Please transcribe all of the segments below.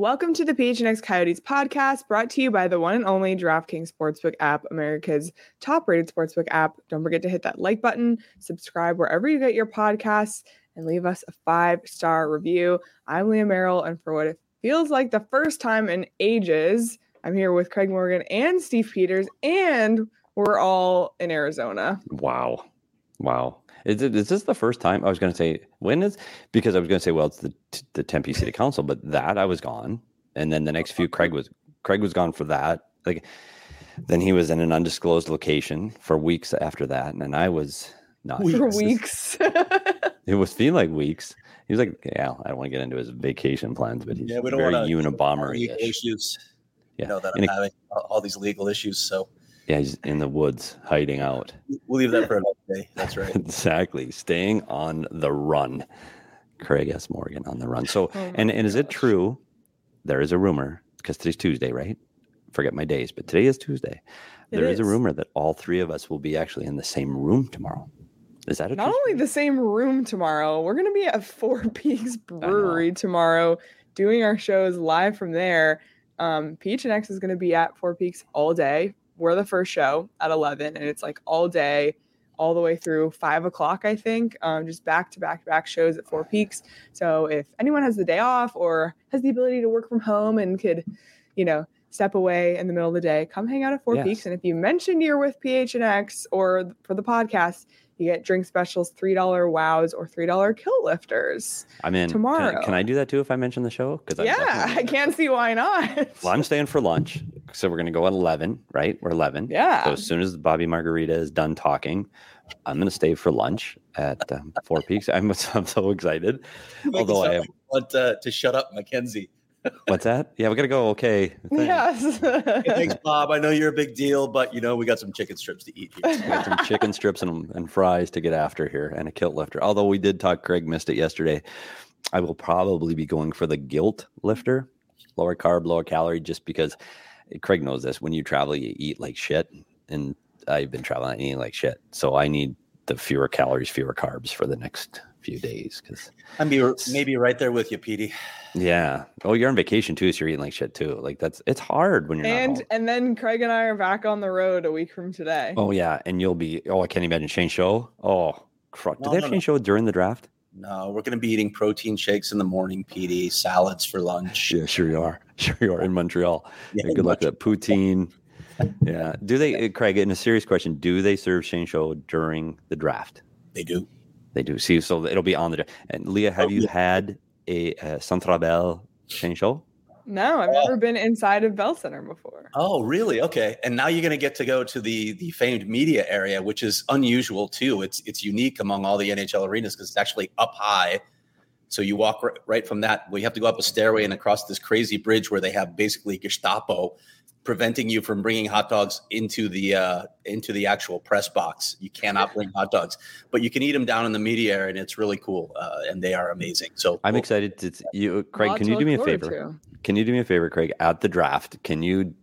Welcome to the PHNX Coyotes podcast, brought to you by the one and only DraftKings Sportsbook app, America's top-rated sportsbook app. Don't forget to hit that like button, subscribe wherever you get your podcasts, and leave us a 5-star review. I'm Leah Merrill, and for what it feels like the first time in ages, I'm here with Craig Morgan and Steve Peters, and we're all in Arizona. Wow. Is this the first time? I was going to say, because I was going to say, well, it's the Tempe City Council, but that I was gone. And then the next few, Craig was gone for that. Like, then he was in an undisclosed location for weeks after that. And then I was not. For weeks. It was feeling like weeks. He was like, yeah, I don't want to get into his vacation plans, but he's very Unabomber-ish. Issues. Yeah. That I'm having all these legal issues. So. Yeah, he's in the woods hiding out. We'll leave that for another day. That's right. Exactly. Staying on the run. Craig S. Morgan on the run. So, and is it true? There is a rumor, because today's Tuesday, right? Forget my days, but today is Tuesday. There is a rumor that all three of us will be actually in the same room tomorrow. Is that Not only the same room tomorrow, we're going to be at Four Peaks Brewery tomorrow doing our shows live from there. PHNX is going to be at Four Peaks all day. We're the first show at 11, and it's like all day, all the way through 5 o'clock, I think, just back shows at Four Peaks. So if anyone has the day off or has the ability to work from home and could, step away in the middle of the day, come hang out at Four Peaks. And if you mention you're with PHNX or for the podcast, you get drink specials, $3 wows or $3 kill lifters. I'm in tomorrow. Can I do that too if I mention the show? I can't see why not. Well, I'm staying for lunch. So we're going to go at 11, right? We're 11. Yeah. So as soon as Bobby Margarita is done talking, I'm going to stay for lunch at Four Peaks. I'm so excited. Although I want to shut up, Mackenzie. What's that? Yeah, we got to go. Okay. Yes. Hey, thanks, Bob. I know you're a big deal, but we got some chicken strips to eat here. We got some chicken strips and fries to get after here, and a kilt lifter. Although we did talk, Craig missed it yesterday. I will probably be going for the guilt lifter, lower carb, lower calorie, just because Craig knows this. When you travel, you eat like shit, and I've been traveling and eating like shit. So I need the fewer calories, fewer carbs for the next few days. Because I'm maybe right there with you, Petey. Yeah. Oh, you're on vacation too, so you're eating like shit too. Like it's hard when you're not home. And then Craig and I are back on the road a week from today. Oh yeah, and you'll be. Oh, I can't imagine Shane Show. Oh, do they have Shane Show during the draft? No, we're going to be eating protein shakes in the morning, Petey. Salads for lunch. Yeah, sure you are. Sure you are in Montreal. Yeah, good luck with that poutine. Yeah. Do they, Craig? In a serious question, do they serve Shane Show during the draft? They do. They do. See, so it'll be on the draft. And Leah, have you had a Centre Bell Shane Show? No, I've never been inside of Bell Center before. Oh, really? Okay. And now you're going to get to go to the famed media area, which is unusual too. It's unique among all the NHL arenas because it's actually up high. So you walk right from that. We have to go up a stairway and across this crazy bridge where they have basically Gestapo preventing you from bringing hot dogs into the actual press box. You cannot bring hot dogs, but you can eat them down in the media area, and it's really cool. And they are amazing. So I'm excited to Craig. Can you do me a favor? Can you do me a favor, Craig? At the draft, can you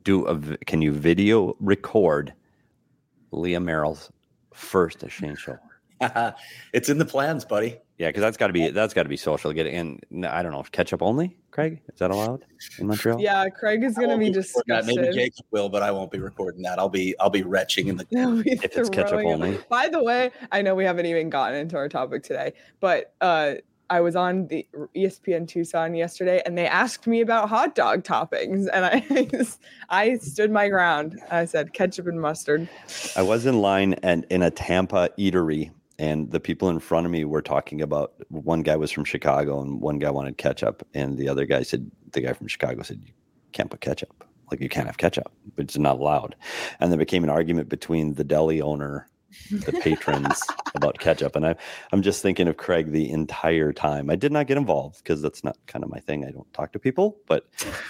video record Leah Merrill's first Shane Show? It's in the plans, buddy. Yeah, because that's got to be social. Get it in. I don't know, ketchup only. Craig, is that allowed in Montreal? Yeah, Craig is going to be disgusted. Maybe Jacob will, but I won't be recording that. I'll be retching in the. If it's ketchup only. By the way, I know we haven't even gotten into our topic today, but I was on the ESPN Tucson yesterday, and they asked me about hot dog toppings, and I stood my ground. I said ketchup and mustard. I was in line in a Tampa eatery. And the people in front of me were talking about, one guy was from Chicago and one guy wanted ketchup. And the guy from Chicago said, you can't put ketchup. Like, you can't have ketchup, but it's not allowed. And there became an argument between the deli owner, the patrons about ketchup. And I'm just thinking of Craig the entire time. I did not get involved because that's not kind of my thing. I don't talk to people. But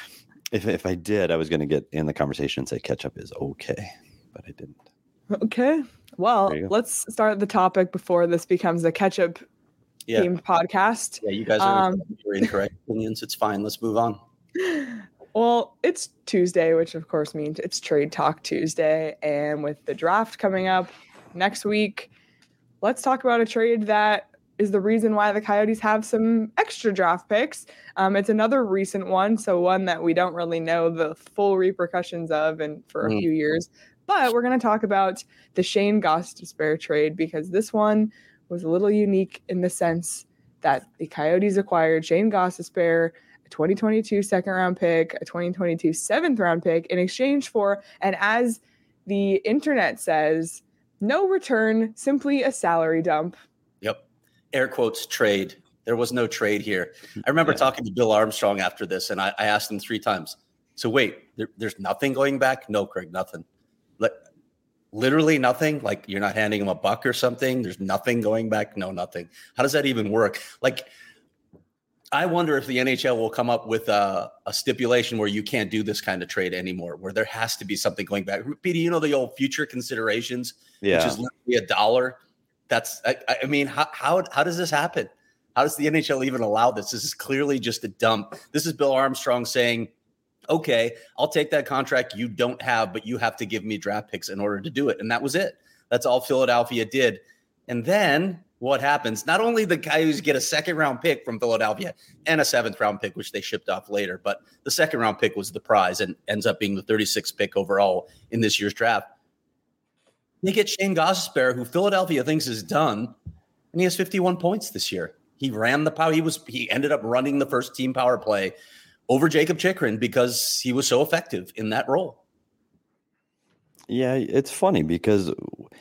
if I did, I was going to get in the conversation and say ketchup is okay. But I didn't. Okay. Well, let's start the topic before this becomes a ketchup themed podcast. Yeah, you guys are incorrect opinions. It's fine. Let's move on. Well, it's Tuesday, which of course means it's Trade Talk Tuesday. And with the draft coming up next week, let's talk about a trade that is the reason why the Coyotes have some extra draft picks. It's another recent one, so one that we don't really know the full repercussions of and for a few years. But we're going to talk about the Shane Gostisbehere trade because this one was a little unique in the sense that the Coyotes acquired Shane Gostisbehere, a 2022 second-round pick, a 2022 seventh-round pick in exchange for, and as the internet says, no return, simply a salary dump. Yep. Air quotes trade. There was no trade here. I remember talking to Bill Armstrong after this, and I asked him 3 times. So wait, there's nothing going back? No, Craig, nothing. Literally nothing? Like you're not handing him a buck or something? There's nothing going back? No, nothing. How does that even work? Like, I wonder if the NHL will come up with a stipulation where you can't do this kind of trade anymore, where there has to be something going back. Petey, you know the old future considerations, which is literally $1. That's, I mean, how does this happen? How does the NHL even allow this? This is clearly just a dump. This is Bill Armstrong saying, okay, I'll take that contract you don't have, but you have to give me draft picks in order to do it. And that was it. That's all Philadelphia did. And then what happens? Not only the Coyotes get a second-round pick from Philadelphia and a seventh-round pick, which they shipped off later, but the second-round pick was the prize and ends up being the 36th pick overall in this year's draft. They get Shane Gostisbehere, who Philadelphia thinks is done, and he has 51 points this year. He ran the power. He ended up running the first team power play over Jacob Chychrun because he was so effective in that role. Yeah, it's funny because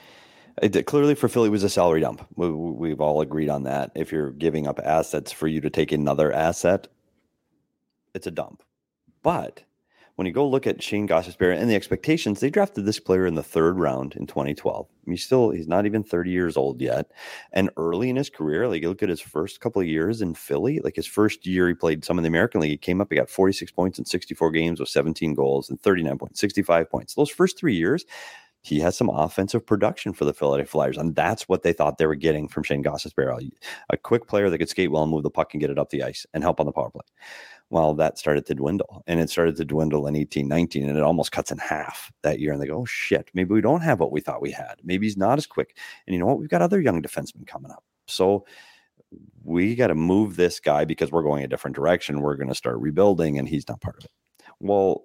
clearly for Philly it was a salary dump. We've all agreed on that. If you're giving up assets for you to take another asset, it's a dump. But when you go look at Shane Gostisbehere and the expectations, they drafted this player in the 3rd round in 2012. I mean, he's not even 30 years old yet. And early in his career, like you look at his first couple of years in Philly, like his first year he played some in the American League, he came up, he got 46 points in 64 games with 17 goals and 39 points, 65 points. Those first 3 years, he has some offensive production for the Philadelphia Flyers, and that's what they thought they were getting from Shane Gostisbehere, a quick player that could skate well and move the puck and get it up the ice and help on the power play. Well, that started to dwindle, and it started to dwindle in 18-19, and it almost cuts in half that year. And they go, oh, shit, maybe we don't have what we thought we had. Maybe he's not as quick. And you know what? We've got other young defensemen coming up. So we got to move this guy because we're going a different direction. We're going to start rebuilding, and he's not part of it. Well,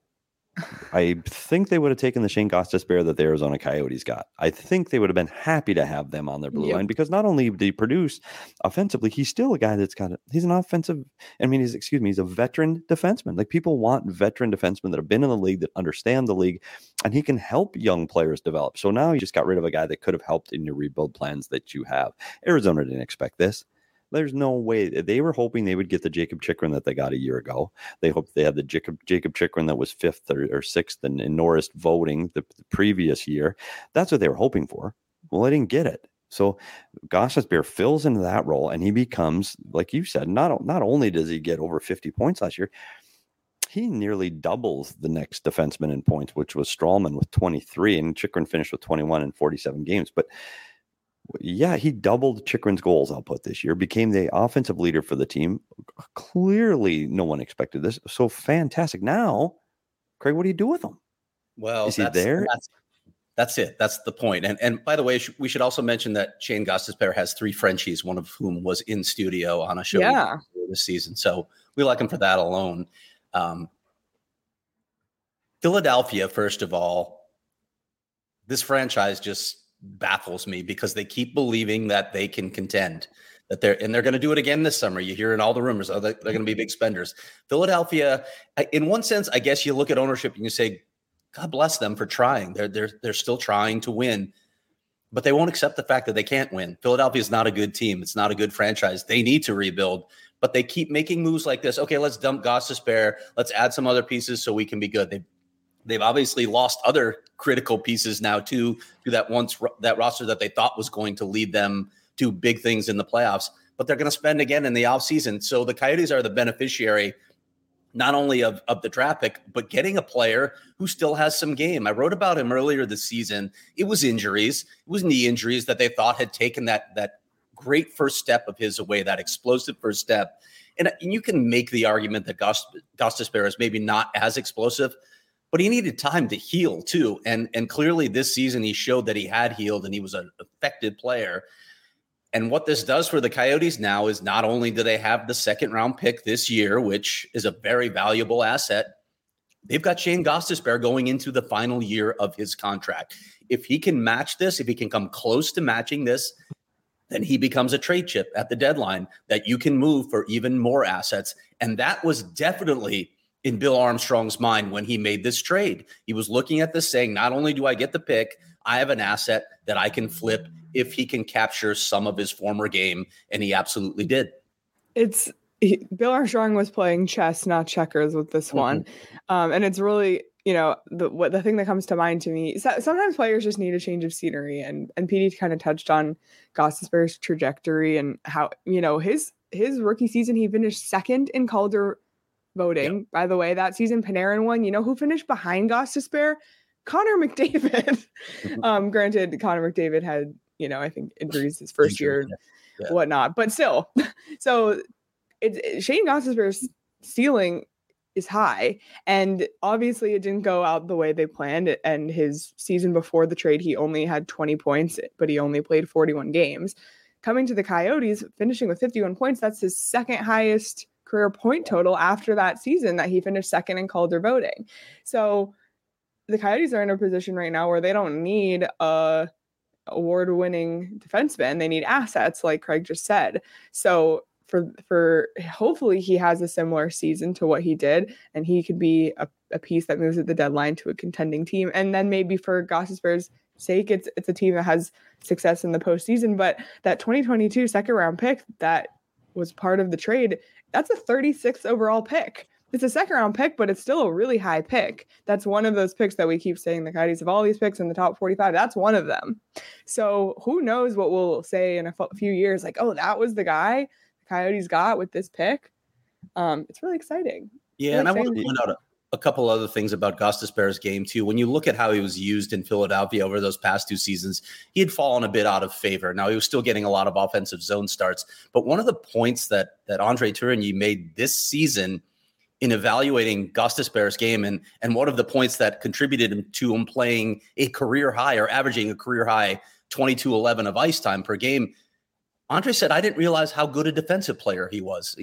I think they would have taken the Shane Gostisbehere that the Arizona Coyotes got. I think they would have been happy to have them on their blue line because not only did he produce offensively, he's still a guy he's an offensive, he's a veteran defenseman. Like people want veteran defensemen that have been in the league, that understand the league, and he can help young players develop. So now you just got rid of a guy that could have helped in your rebuild plans that you have. Arizona didn't expect this. There's no way. They were hoping they would get the Jacob Chychrun that they got a year ago. They hoped they had the Jacob Chychrun that was 5th or 6th in Norris voting the previous year. That's what they were hoping for. Well, they didn't get it. So Gostisbehere fills into that role, and he becomes, like you said, not only does he get over 50 points last year, he nearly doubles the next defenseman in points, which was Stralman with 23, and Chychrun finished with 21 in 47 games. But yeah, he doubled Chychrun's goals output this year, became the offensive leader for the team. Clearly, no one expected this. So fantastic. Now, Craig, what do you do with him? Well, is he there? That's it. That's the point. And by the way, we should also mention that Shane Gostisbehere has 3 Frenchies, one of whom was in studio on a show this season. So we like him for that alone. Philadelphia, first of all, this franchise just baffles me because they keep believing that they can contend, that they're going to do it again this summer. You hear in all the rumors, they're going to be big spenders. Philadelphia, in one sense, I guess you look at ownership and you say, God bless them for trying. They're still trying to win, but they won't accept the fact that they can't win. Philadelphia is not a good team. It's not a good franchise. They need to rebuild, but they keep making moves like this. Okay, let's dump Gostisbehere. Let's add some other pieces so we can be good. They've obviously lost other critical pieces now to that roster that they thought was going to lead them to big things in the playoffs, but they're going to spend again in the offseason. So the Coyotes are the beneficiary not only of the draft pick, but getting a player who still has some game. I wrote about him earlier this season. It was injuries. It was knee injuries that they thought had taken that great first step of his away, that explosive first step. And you can make the argument that Gostisbehere is maybe not as explosive, but he needed time to heal too. And clearly this season he showed that he had healed and he was an effective player. And what this does for the Coyotes now is not only do they have the second round pick this year, which is a very valuable asset, they've got Shane Gostisbehere going into the final year of his contract. If he can match this, if he can come close to matching this, then he becomes a trade chip at the deadline that you can move for even more assets. And that was definitely in Bill Armstrong's mind when he made this trade. He was looking at this saying, not only do I get the pick, I have an asset that I can flip if he can capture some of his former game. And he absolutely did. Bill Armstrong was playing chess, not checkers with this one. And it's really, the thing that comes to mind to me, sometimes players just need a change of scenery, and PD kind of touched on Gostisbehere's trajectory and how, his rookie season, he finished second in Calder voting. Yep. By the way, that season Panarin won. Who finished behind Gostisbehere? Connor McDavid. Granted, Connor McDavid had, I think injuries his first year, whatnot, but still. So Shane Gostisbehere's ceiling is high, and obviously it didn't go out the way they planned. And his season before the trade, he only had 20 points, but he only played 41 games. Coming to the Coyotes, finishing with 51 points, that's his second highest career point total after that season that he finished second in Calder voting. So the Coyotes are in a position right now where they don't need a award-winning defenseman. They need assets, like Craig just said. So for hopefully he has a similar season to what he did, and he could be a piece that moves at the deadline to a contending team. And then maybe for Gostisbehere's sake, it's a team that has success in the postseason. But that 2022 second round pick that was part of the trade, that's a 36th overall pick. It's a second round pick, but it's still a really high pick. That's one of those picks that we keep saying the Coyotes have all these picks in the top 45. That's one of them. So who knows what we'll say in a few years, like, oh, that was the guy the Coyotes got with this pick. It's really exciting. Yeah, and I want to point out a couple other things about Gostisbehere's game too. When you look at how he was used in Philadelphia over those past two seasons, he had fallen a bit out of favor. Now he was still getting a lot of offensive zone starts, but one of the points that Andre Tourigny made this season in evaluating Gostisbehere's game, and one of the points that contributed to him playing a career high or averaging a career high 22-11 of ice time per game, Andre said, I didn't realize how good a defensive player he was.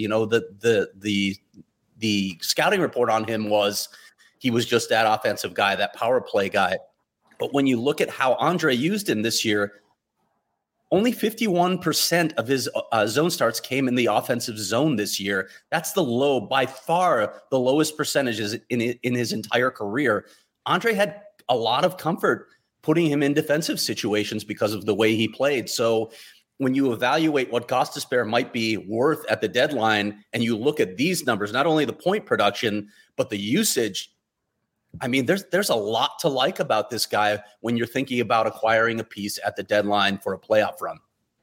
The scouting report on him was he was just that offensive guy, that power play guy. But when you look at how Andre used him this year, only 51% of his zone starts came in the offensive zone this year. That's by far the lowest percentages in his entire career. Andre had a lot of comfort putting him in defensive situations because of the way he played. So when you evaluate what Gostisbehere might be worth at the deadline, and you look at these numbers, not only the point production, but the usage, I mean, there's a lot to like about this guy when you're thinking about acquiring a piece at the deadline for a playoff run.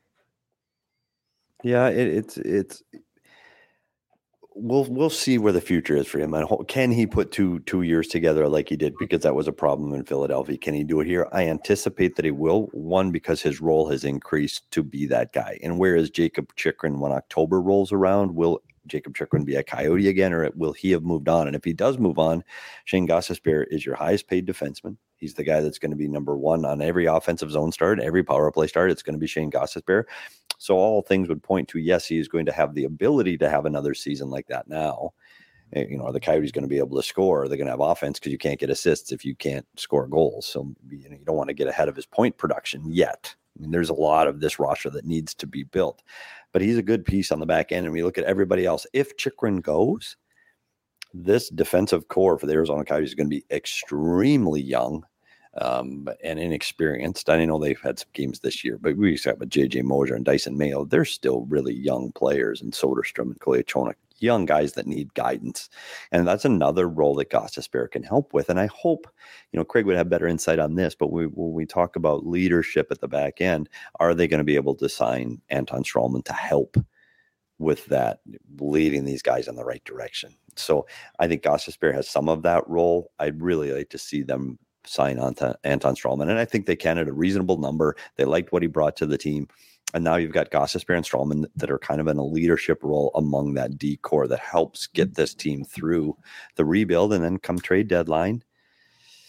Yeah, we'll see where the future is for him. Can he put two years together like he did? Because that was a problem in Philadelphia. Can he do it here? I anticipate that he will. One, because his role has increased to be that guy. And whereas Jakob Chychrun, when October rolls around, will Jakob Chychrun be a Coyote again, or will he have moved on? And if he does move on, Shane Gostisbehere is your highest paid defenseman. He's the guy that's going to be number one on every offensive zone start, every power play start. It's going to be Shane Gostisbehere. So all things would point to, yes, he is going to have the ability to have another season like that now. Are the Coyotes going to be able to score? They're going to have offense because you can't get assists if you can't score goals. So you don't want to get ahead of his point production yet. I mean, there's a lot of this roster that needs to be built. But he's a good piece on the back end. And we look at everybody else. If Chychrun goes, this defensive core for the Arizona Coyotes is going to be extremely young and inexperienced. I know they've had some games this year, but we got with J.J. Moser and Dyson Mayo. They're still really young players, and Soderstrom and Kolyachonok, young guys that need guidance. And that's another role that Gostisbehere can help with. And I hope, Craig would have better insight on this, but when we talk about leadership at the back end, are they going to be able to sign Anton Stralman to help with that, leading these guys in the right direction? So I think Gostisbehere has some of that role. I'd really like to see them sign on to Anton Stralman, and I think they can at a reasonable number. They liked what he brought to the team. And now you've got Gostisbehere and Stralman that are kind of in a leadership role among that D core that helps get this team through the rebuild. And then come trade deadline,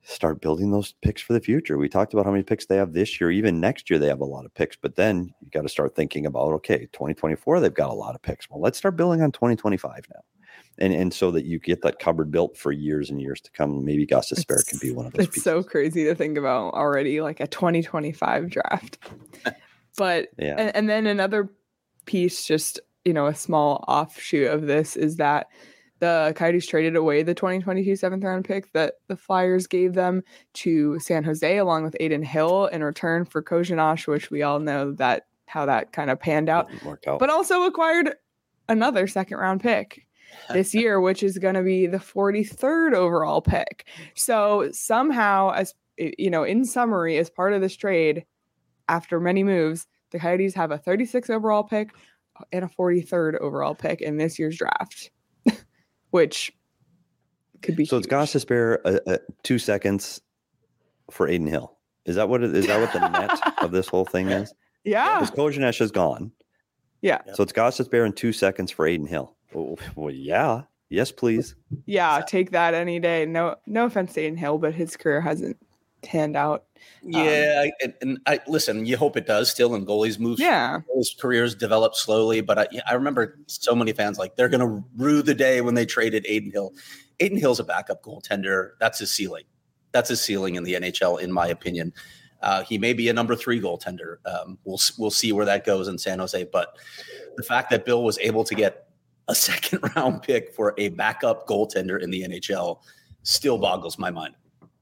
start building those picks for the future. We talked about how many picks they have this year. Even next year, they have a lot of picks. But then you got to start thinking about, okay, 2024, they've got a lot of picks. Well, let's start building on 2025 now. And so that you get that cupboard built for years and years to come. Maybe Gostisbehere can be one of those pieces. It's so crazy to think about already, like a 2025 draft. But yeah. And then another piece, just, a small offshoot of this is that the Coyotes traded away the 2022 seventh round pick that the Flyers gave them to San Jose along with Adin Hill in return for Kozhinosh, which we all know that how that kind of panned out. But also acquired another second round pick this year, which is going to be the 43rd overall pick. So somehow, as in summary, as part of this trade, after many moves, the Coyotes have a 36th overall pick and a 43rd overall pick in this year's draft, which could be. So huge. It's Gostisbehere 2 seconds for Adin Hill. Is that what the net of this whole thing is? Yeah. Because Kozhinosh is gone. Yeah. So it's Gostisbehere in 2 seconds for Adin Hill. Well, yeah. Yes, please. Yeah, take that any day. No offense to Adin Hill, but his career hasn't panned out. Yeah, and I listen. You hope it does still, and goalies move. Yeah, his careers develop slowly. But I remember so many fans like they're going to rue the day when they traded Adin Hill. Adin Hill's a backup goaltender. That's his ceiling. That's his ceiling in the NHL, in my opinion. He may be a number 3 goaltender. We'll see where that goes in San Jose. But the fact that Bill was able to get a second round pick for a backup goaltender in the NHL still boggles my mind.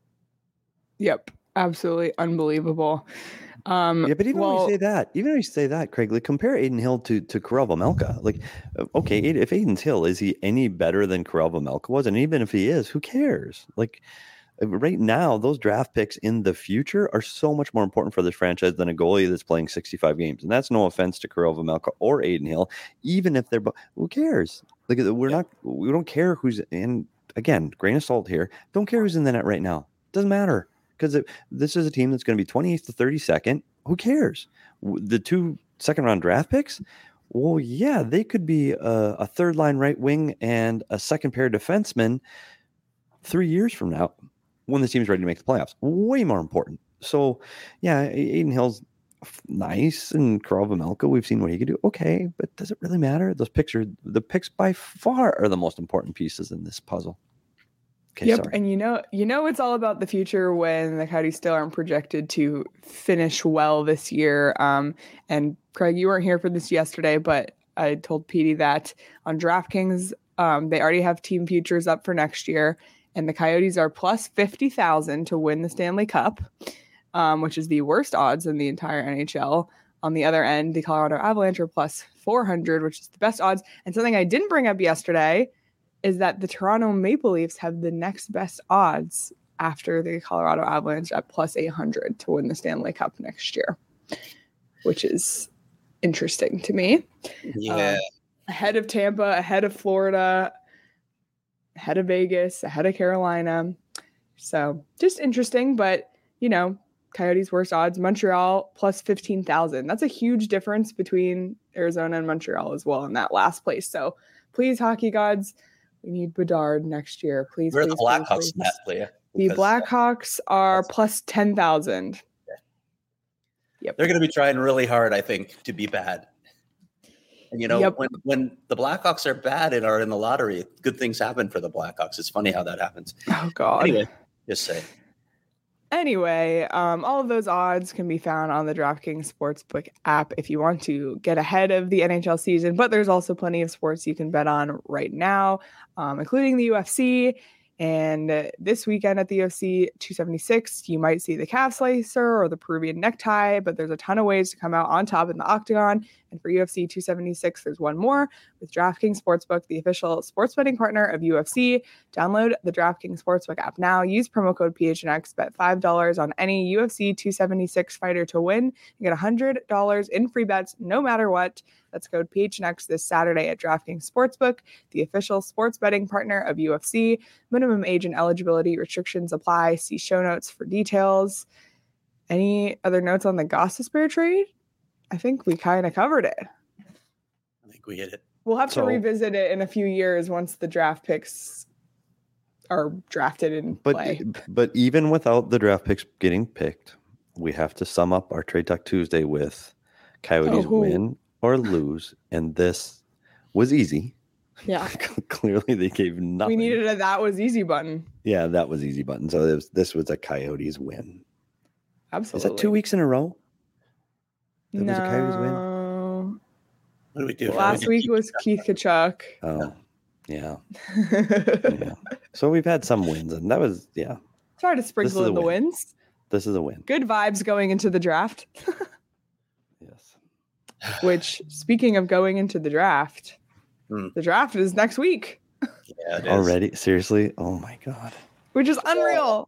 Yep. Absolutely unbelievable. But even when you say that, Craig, like compare Adin Hill to Karel Vejmelka. Like, okay, if Adin Hill, is he any better than Karel Vejmelka was? And even if he is, who cares? Like right now, those draft picks in the future are so much more important for this franchise than a goalie that's playing 65 games. And that's no offense to Karel Vejmelka or Adin Hill, even if they're who cares? Like we don't care who's in. Again, grain of salt here. Don't care who's in the net right now. Doesn't matter. Because this is a team that's going to be 28th to 32nd. Who cares? The 2 second-round draft picks? Well, yeah, they could be a third-line right wing and a second-pair defenseman 3 years from now when the team's ready to make the playoffs. Way more important. So, yeah, Adin Hill's nice, and Karel Vejmelka, we've seen what he could do. Okay, but does it really matter? The picks by far are the most important pieces in this puzzle. Okay, yep, sorry. And it's all about the future when the Coyotes still aren't projected to finish well this year. And Craig, you weren't here for this yesterday, but I told Petey that on DraftKings, they already have team futures up for next year, and the Coyotes are plus 50,000 to win the Stanley Cup, which is the worst odds in the entire NHL. On the other end, the Colorado Avalanche are plus 400, which is the best odds. And something I didn't bring up yesterday is that the Toronto Maple Leafs have the next best odds after the Colorado Avalanche at plus 800 to win the Stanley Cup next year, which is interesting to me. Yeah. Ahead of Tampa, ahead of Florida, ahead of Vegas, ahead of Carolina. So just interesting, but Coyotes worst odds, Montreal plus 15,000. That's a huge difference between Arizona and Montreal as well in that last place. So please, hockey gods, we need Bedard next year. Please. Where are the Blackhawks in that, Leah? The Blackhawks are plus 10,000. Yeah. Yep. They're going to be trying really hard, I think, to be bad. And, when the Blackhawks are bad and are in the lottery, good things happen for the Blackhawks. It's funny how that happens. Oh, God. Anyway, just say. Anyway, all of those odds can be found on the DraftKings Sportsbook app if you want to get ahead of the NHL season. But there's also plenty of sports you can bet on right now, including the UFC. And this weekend at the UFC 276, you might see the calf slicer or the Peruvian necktie, but there's a ton of ways to come out on top in the octagon. And for UFC 276, there's one more with DraftKings Sportsbook, the official sports betting partner of UFC. Download the DraftKings Sportsbook app now. Use promo code PHNX. Bet $5 on any UFC 276 fighter to win. You get $100 in free bets no matter what. That's code PHNX this Saturday at DraftKings Sportsbook, the official sports betting partner of UFC. Minimum age and eligibility restrictions apply. See show notes for details. Any other notes on the Gostisbehere trade? I think we kind of covered it. I think we hit it. We'll have to revisit it in a few years once the draft picks are drafted and play. But even without the draft picks getting picked, we have to sum up our Trade Talk Tuesday with Coyotes win or lose, and this was easy. Yeah. Clearly, they gave nothing. We needed a that was easy button. Yeah, that was easy button. So this was a Coyotes win. Absolutely. Is that 2 weeks in a row? That was a Coyotes win? What do we do? Last week was Keith Tkachuk. Oh, yeah. Yeah. So we've had some wins, and that was, Try to sprinkle in the wins. This is a win. Good vibes going into the draft. Yes. Which, speaking of going into the draft, the draft is next week. Yeah, it is. Already? Seriously? Oh, my God. Which is unreal.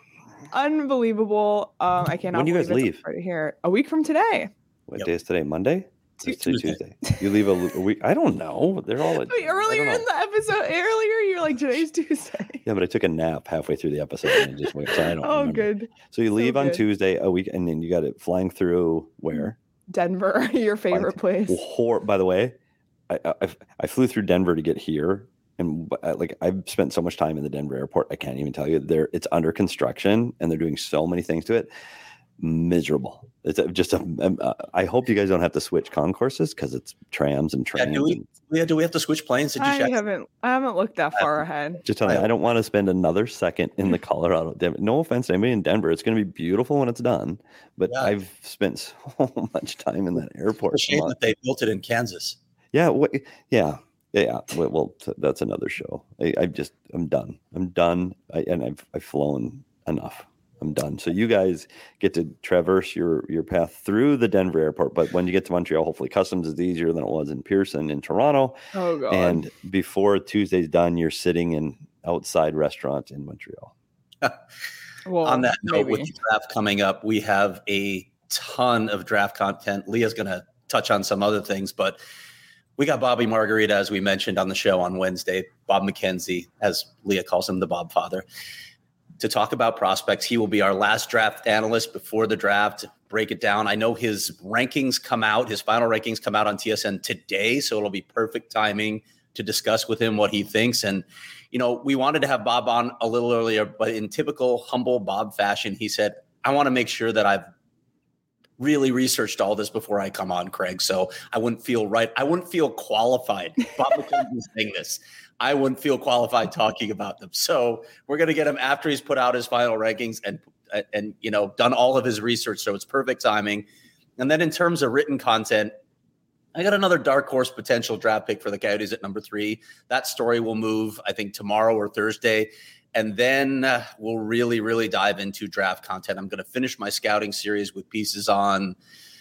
Unbelievable. I cannot When do you guys leave? Right here. A week from today. What day is today? Monday? Tuesday. You leave a week. I don't know. They're all earlier in the episode. You're like, today's Tuesday. Yeah, but I took a nap halfway through the episode and I just went. So I don't. remember. Good. So you leave on Tuesday a week, and then you got it flying through where? Denver, your favorite place. By the way, I flew through Denver to get here, and I've spent so much time in the Denver airport. I can't even tell you. It's under construction, and they're doing so many things to it. Miserable. It's just I hope you guys don't have to switch concourses because it's trams and trains. Do we have to switch planes? Did you check? I haven't looked that far ahead. Just tell you, I don't want to spend another second in the Colorado. No offense to anybody in Denver. It's going to be beautiful when it's done, but I've spent so much time in that airport. It's a shame that they built it in Kansas. Yeah. Yeah. Well, that's another show. I'm done. I'm done. I've flown enough. I'm done. So you guys get to traverse your path through the Denver airport, but when you get to Montreal, hopefully customs is easier than it was in Pearson in Toronto. Oh God. And before Tuesday's done, you're sitting in outside restaurant in Montreal. Well, on that note, with the draft coming up, we have a ton of draft content. Leah's going to touch on some other things, but we got Bobby Margarita, as we mentioned on the show on Wednesday, Bob McKenzie, as Leah calls him, the Bob Father, to talk about prospects. He will be our last draft analyst before the draft, break it down. I know his rankings come out, his final rankings come out on TSN today, so it'll be perfect timing to discuss with him what he thinks. And, we wanted to have Bob on a little earlier, but in typical humble Bob fashion, he said, I want to make sure that I've really researched all this before I come on, Craig. So I wouldn't feel right. I wouldn't feel qualified. Bob McKenzie is saying this. I wouldn't feel qualified talking about them. So we're going to get him after he's put out his final rankings and done all of his research. So it's perfect timing. And then in terms of written content, I got another dark horse potential draft pick for the Coyotes at number 3. That story will move, I think, tomorrow or Thursday. And then we'll really, really dive into draft content. I'm going to finish my scouting series with pieces on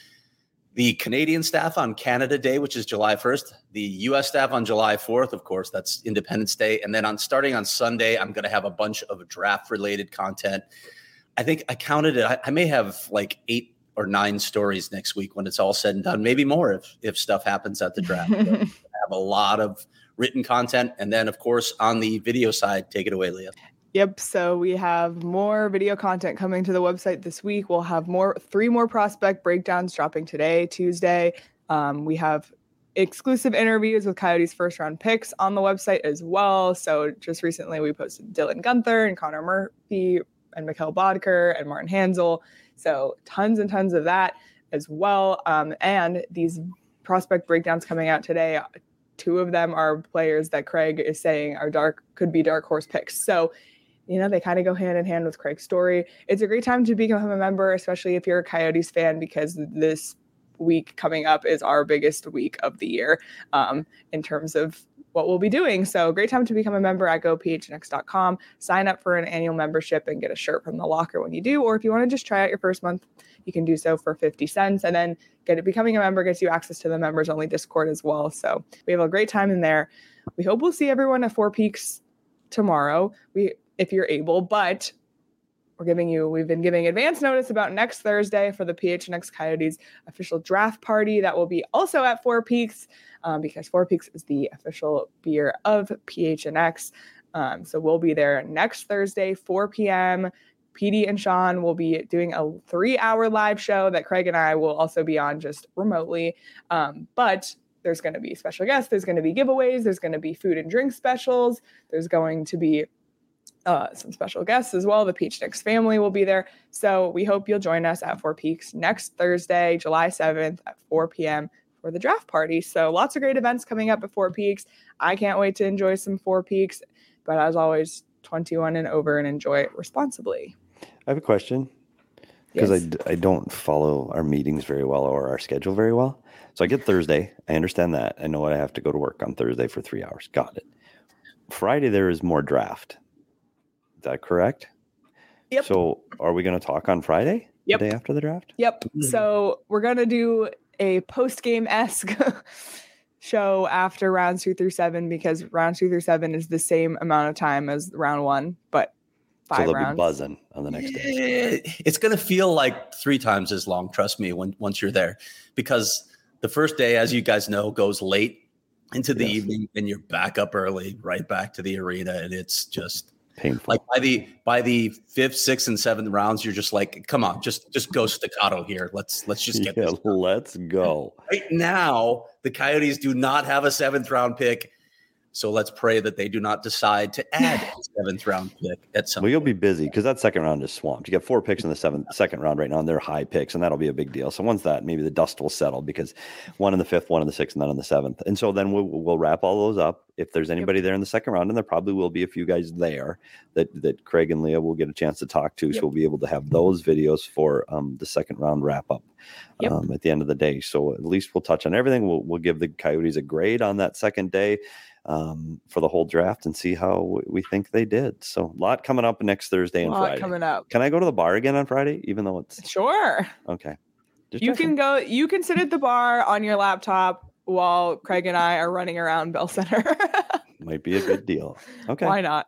the Canadian staff on Canada Day, which is July 1st, the U.S. staff on July 4th, of course, that's Independence Day. And then starting on Sunday, I'm going to have a bunch of draft-related content. I think I counted it. I may have like 8 or 9 stories next week when it's all said and done, maybe more if stuff happens at the draft. I have a lot of written content. And then, of course, on the video side, take it away, Leah. Yep. So we have more video content coming to the website this week. We'll have 3 more prospect breakdowns dropping today, Tuesday. We have exclusive interviews with Coyotes first round picks on the website as well. So just recently we posted Dylan Guenther and Connor Murphy and Mikhail Bodker and Martin Hansel. So tons and tons of that as well. And these prospect breakdowns coming out today, 2 of them are players that Craig is saying could be dark horse picks. So they kind of go hand in hand with Craig's story. It's a great time to become a member, especially if you're a Coyotes fan, because this week coming up is our biggest week of the year in terms of what we'll be doing. So great time to become a member at gophnx.com. Sign up for an annual membership and get a shirt from the locker when you do. Or if you want to just try out your first month, you can do so for 50 cents. And then becoming a member gets you access to the members only Discord as well. So we have a great time in there. We hope we'll see everyone at Four Peaks tomorrow. If you're able, but we've been giving advance notice about next Thursday for the PHNX Coyotes official draft party that will be also at Four Peaks because Four Peaks is the official beer of PHNX. So we'll be there next Thursday, 4 p.m. PD and Sean will be doing a 3-hour live show that Craig and I will also be on just remotely. But there's going to be special guests. There's going to be giveaways. There's going to be food and drink specials. There's going to be some special guests as well. The Peachnix family will be there. So we hope you'll join us at Four Peaks next Thursday, July 7th at 4 p.m. for the draft party. So lots of great events coming up at Four Peaks. I can't wait to enjoy some Four Peaks. But as always, 21 and over, and enjoy it responsibly. I have a question because I don't follow our meetings very well or our schedule very well. So I get Thursday. I understand that. I know I have to go to work on Thursday for 3 hours. Got it. Friday, there is more draft. Is that correct? Yep. So are we going to talk on Friday? Yep. The day after the draft? Yep. So we're going to do a post-game-esque show after rounds 2 through 7, because rounds 2 through 7 is the same amount of time as round 1, but 5 so rounds. Be buzzing on the next day. It's going to feel like 3 times as long. Trust me, once you're there, because the first day, as you guys know, goes late into the evening, and you're back up early, right back to the arena, and it's just painful. Like by the 5th, 6th, and 7th rounds, you're just like, come on, just go staccato here. Let's just get this. Let's go. Right now, the Coyotes do not have a 7th round pick. So let's pray that they do not decide to add a 7th round pick at some Well, you'll point. be busy because that second round is swamped. You get 4 picks in the second round right now, and they're high picks, and that'll be a big deal. So once that, maybe the dust will settle because 1 in the 5th, 1 in the 6th, and then in the 7th. And so then we'll wrap all those up. If there's anybody there in the second round, and there probably will be a few guys there that Craig and Leah will get a chance to talk to. So we'll be able to have those videos for the second round wrap up at the end of the day. So at least we'll touch on everything. We'll give the Coyotes a grade on that second day for the whole draft and see how we think they did. So a lot coming up next Thursday and Friday. Coming up. Can I go to the bar again on Friday, even though it's sure? Okay. You can go. You can sit at the bar on your laptop while Craig and I are running around Bell Center. Might be a good deal. Okay. Why not?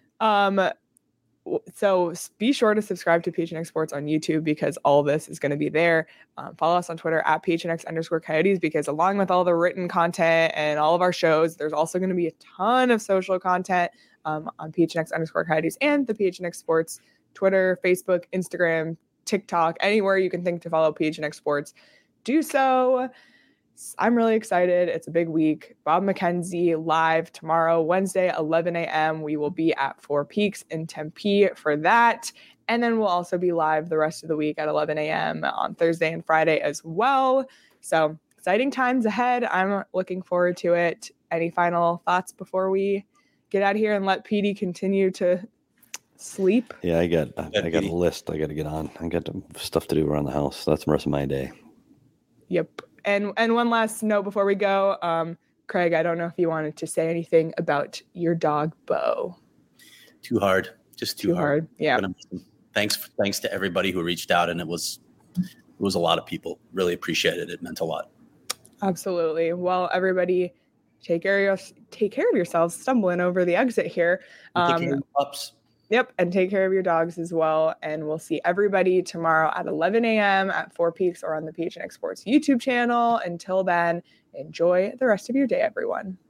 So be sure to subscribe to PHNX Sports on YouTube, because all this is going to be there. Follow us on Twitter at PHNX_Coyotes, because along with all the written content and all of our shows, there's also going to be a ton of social content on PHNX_Coyotes and the PHNX Sports Twitter, Facebook, Instagram, TikTok, anywhere you can think to follow PHNX Sports. Do so. I'm really excited. It's a big week. Bob McKenzie live tomorrow, Wednesday, 11 a.m. We will be at Four Peaks in Tempe for that. And then we'll also be live the rest of the week at 11 a.m. on Thursday and Friday as well. So exciting times ahead. I'm looking forward to it. Any final thoughts before we get out of here and let PD continue to sleep? Yeah, I got a list I got to get on. I got stuff to do around the house. That's the rest of my day. Yep. And one last note before we go, Craig, I don't know if you wanted to say anything about your dog, Bo. Too hard. Just too hard. Yeah. Thanks to everybody who reached out, and it was a lot of people. Really appreciated it. It meant a lot. Absolutely. Well, everybody, take care of yourselves. Stumbling over the exit here. Take care of your pups. Yep. And take care of your dogs as well. And we'll see everybody tomorrow at 11 a.m. at Four Peaks or on the PHNX Sports YouTube channel. Until then, enjoy the rest of your day, everyone.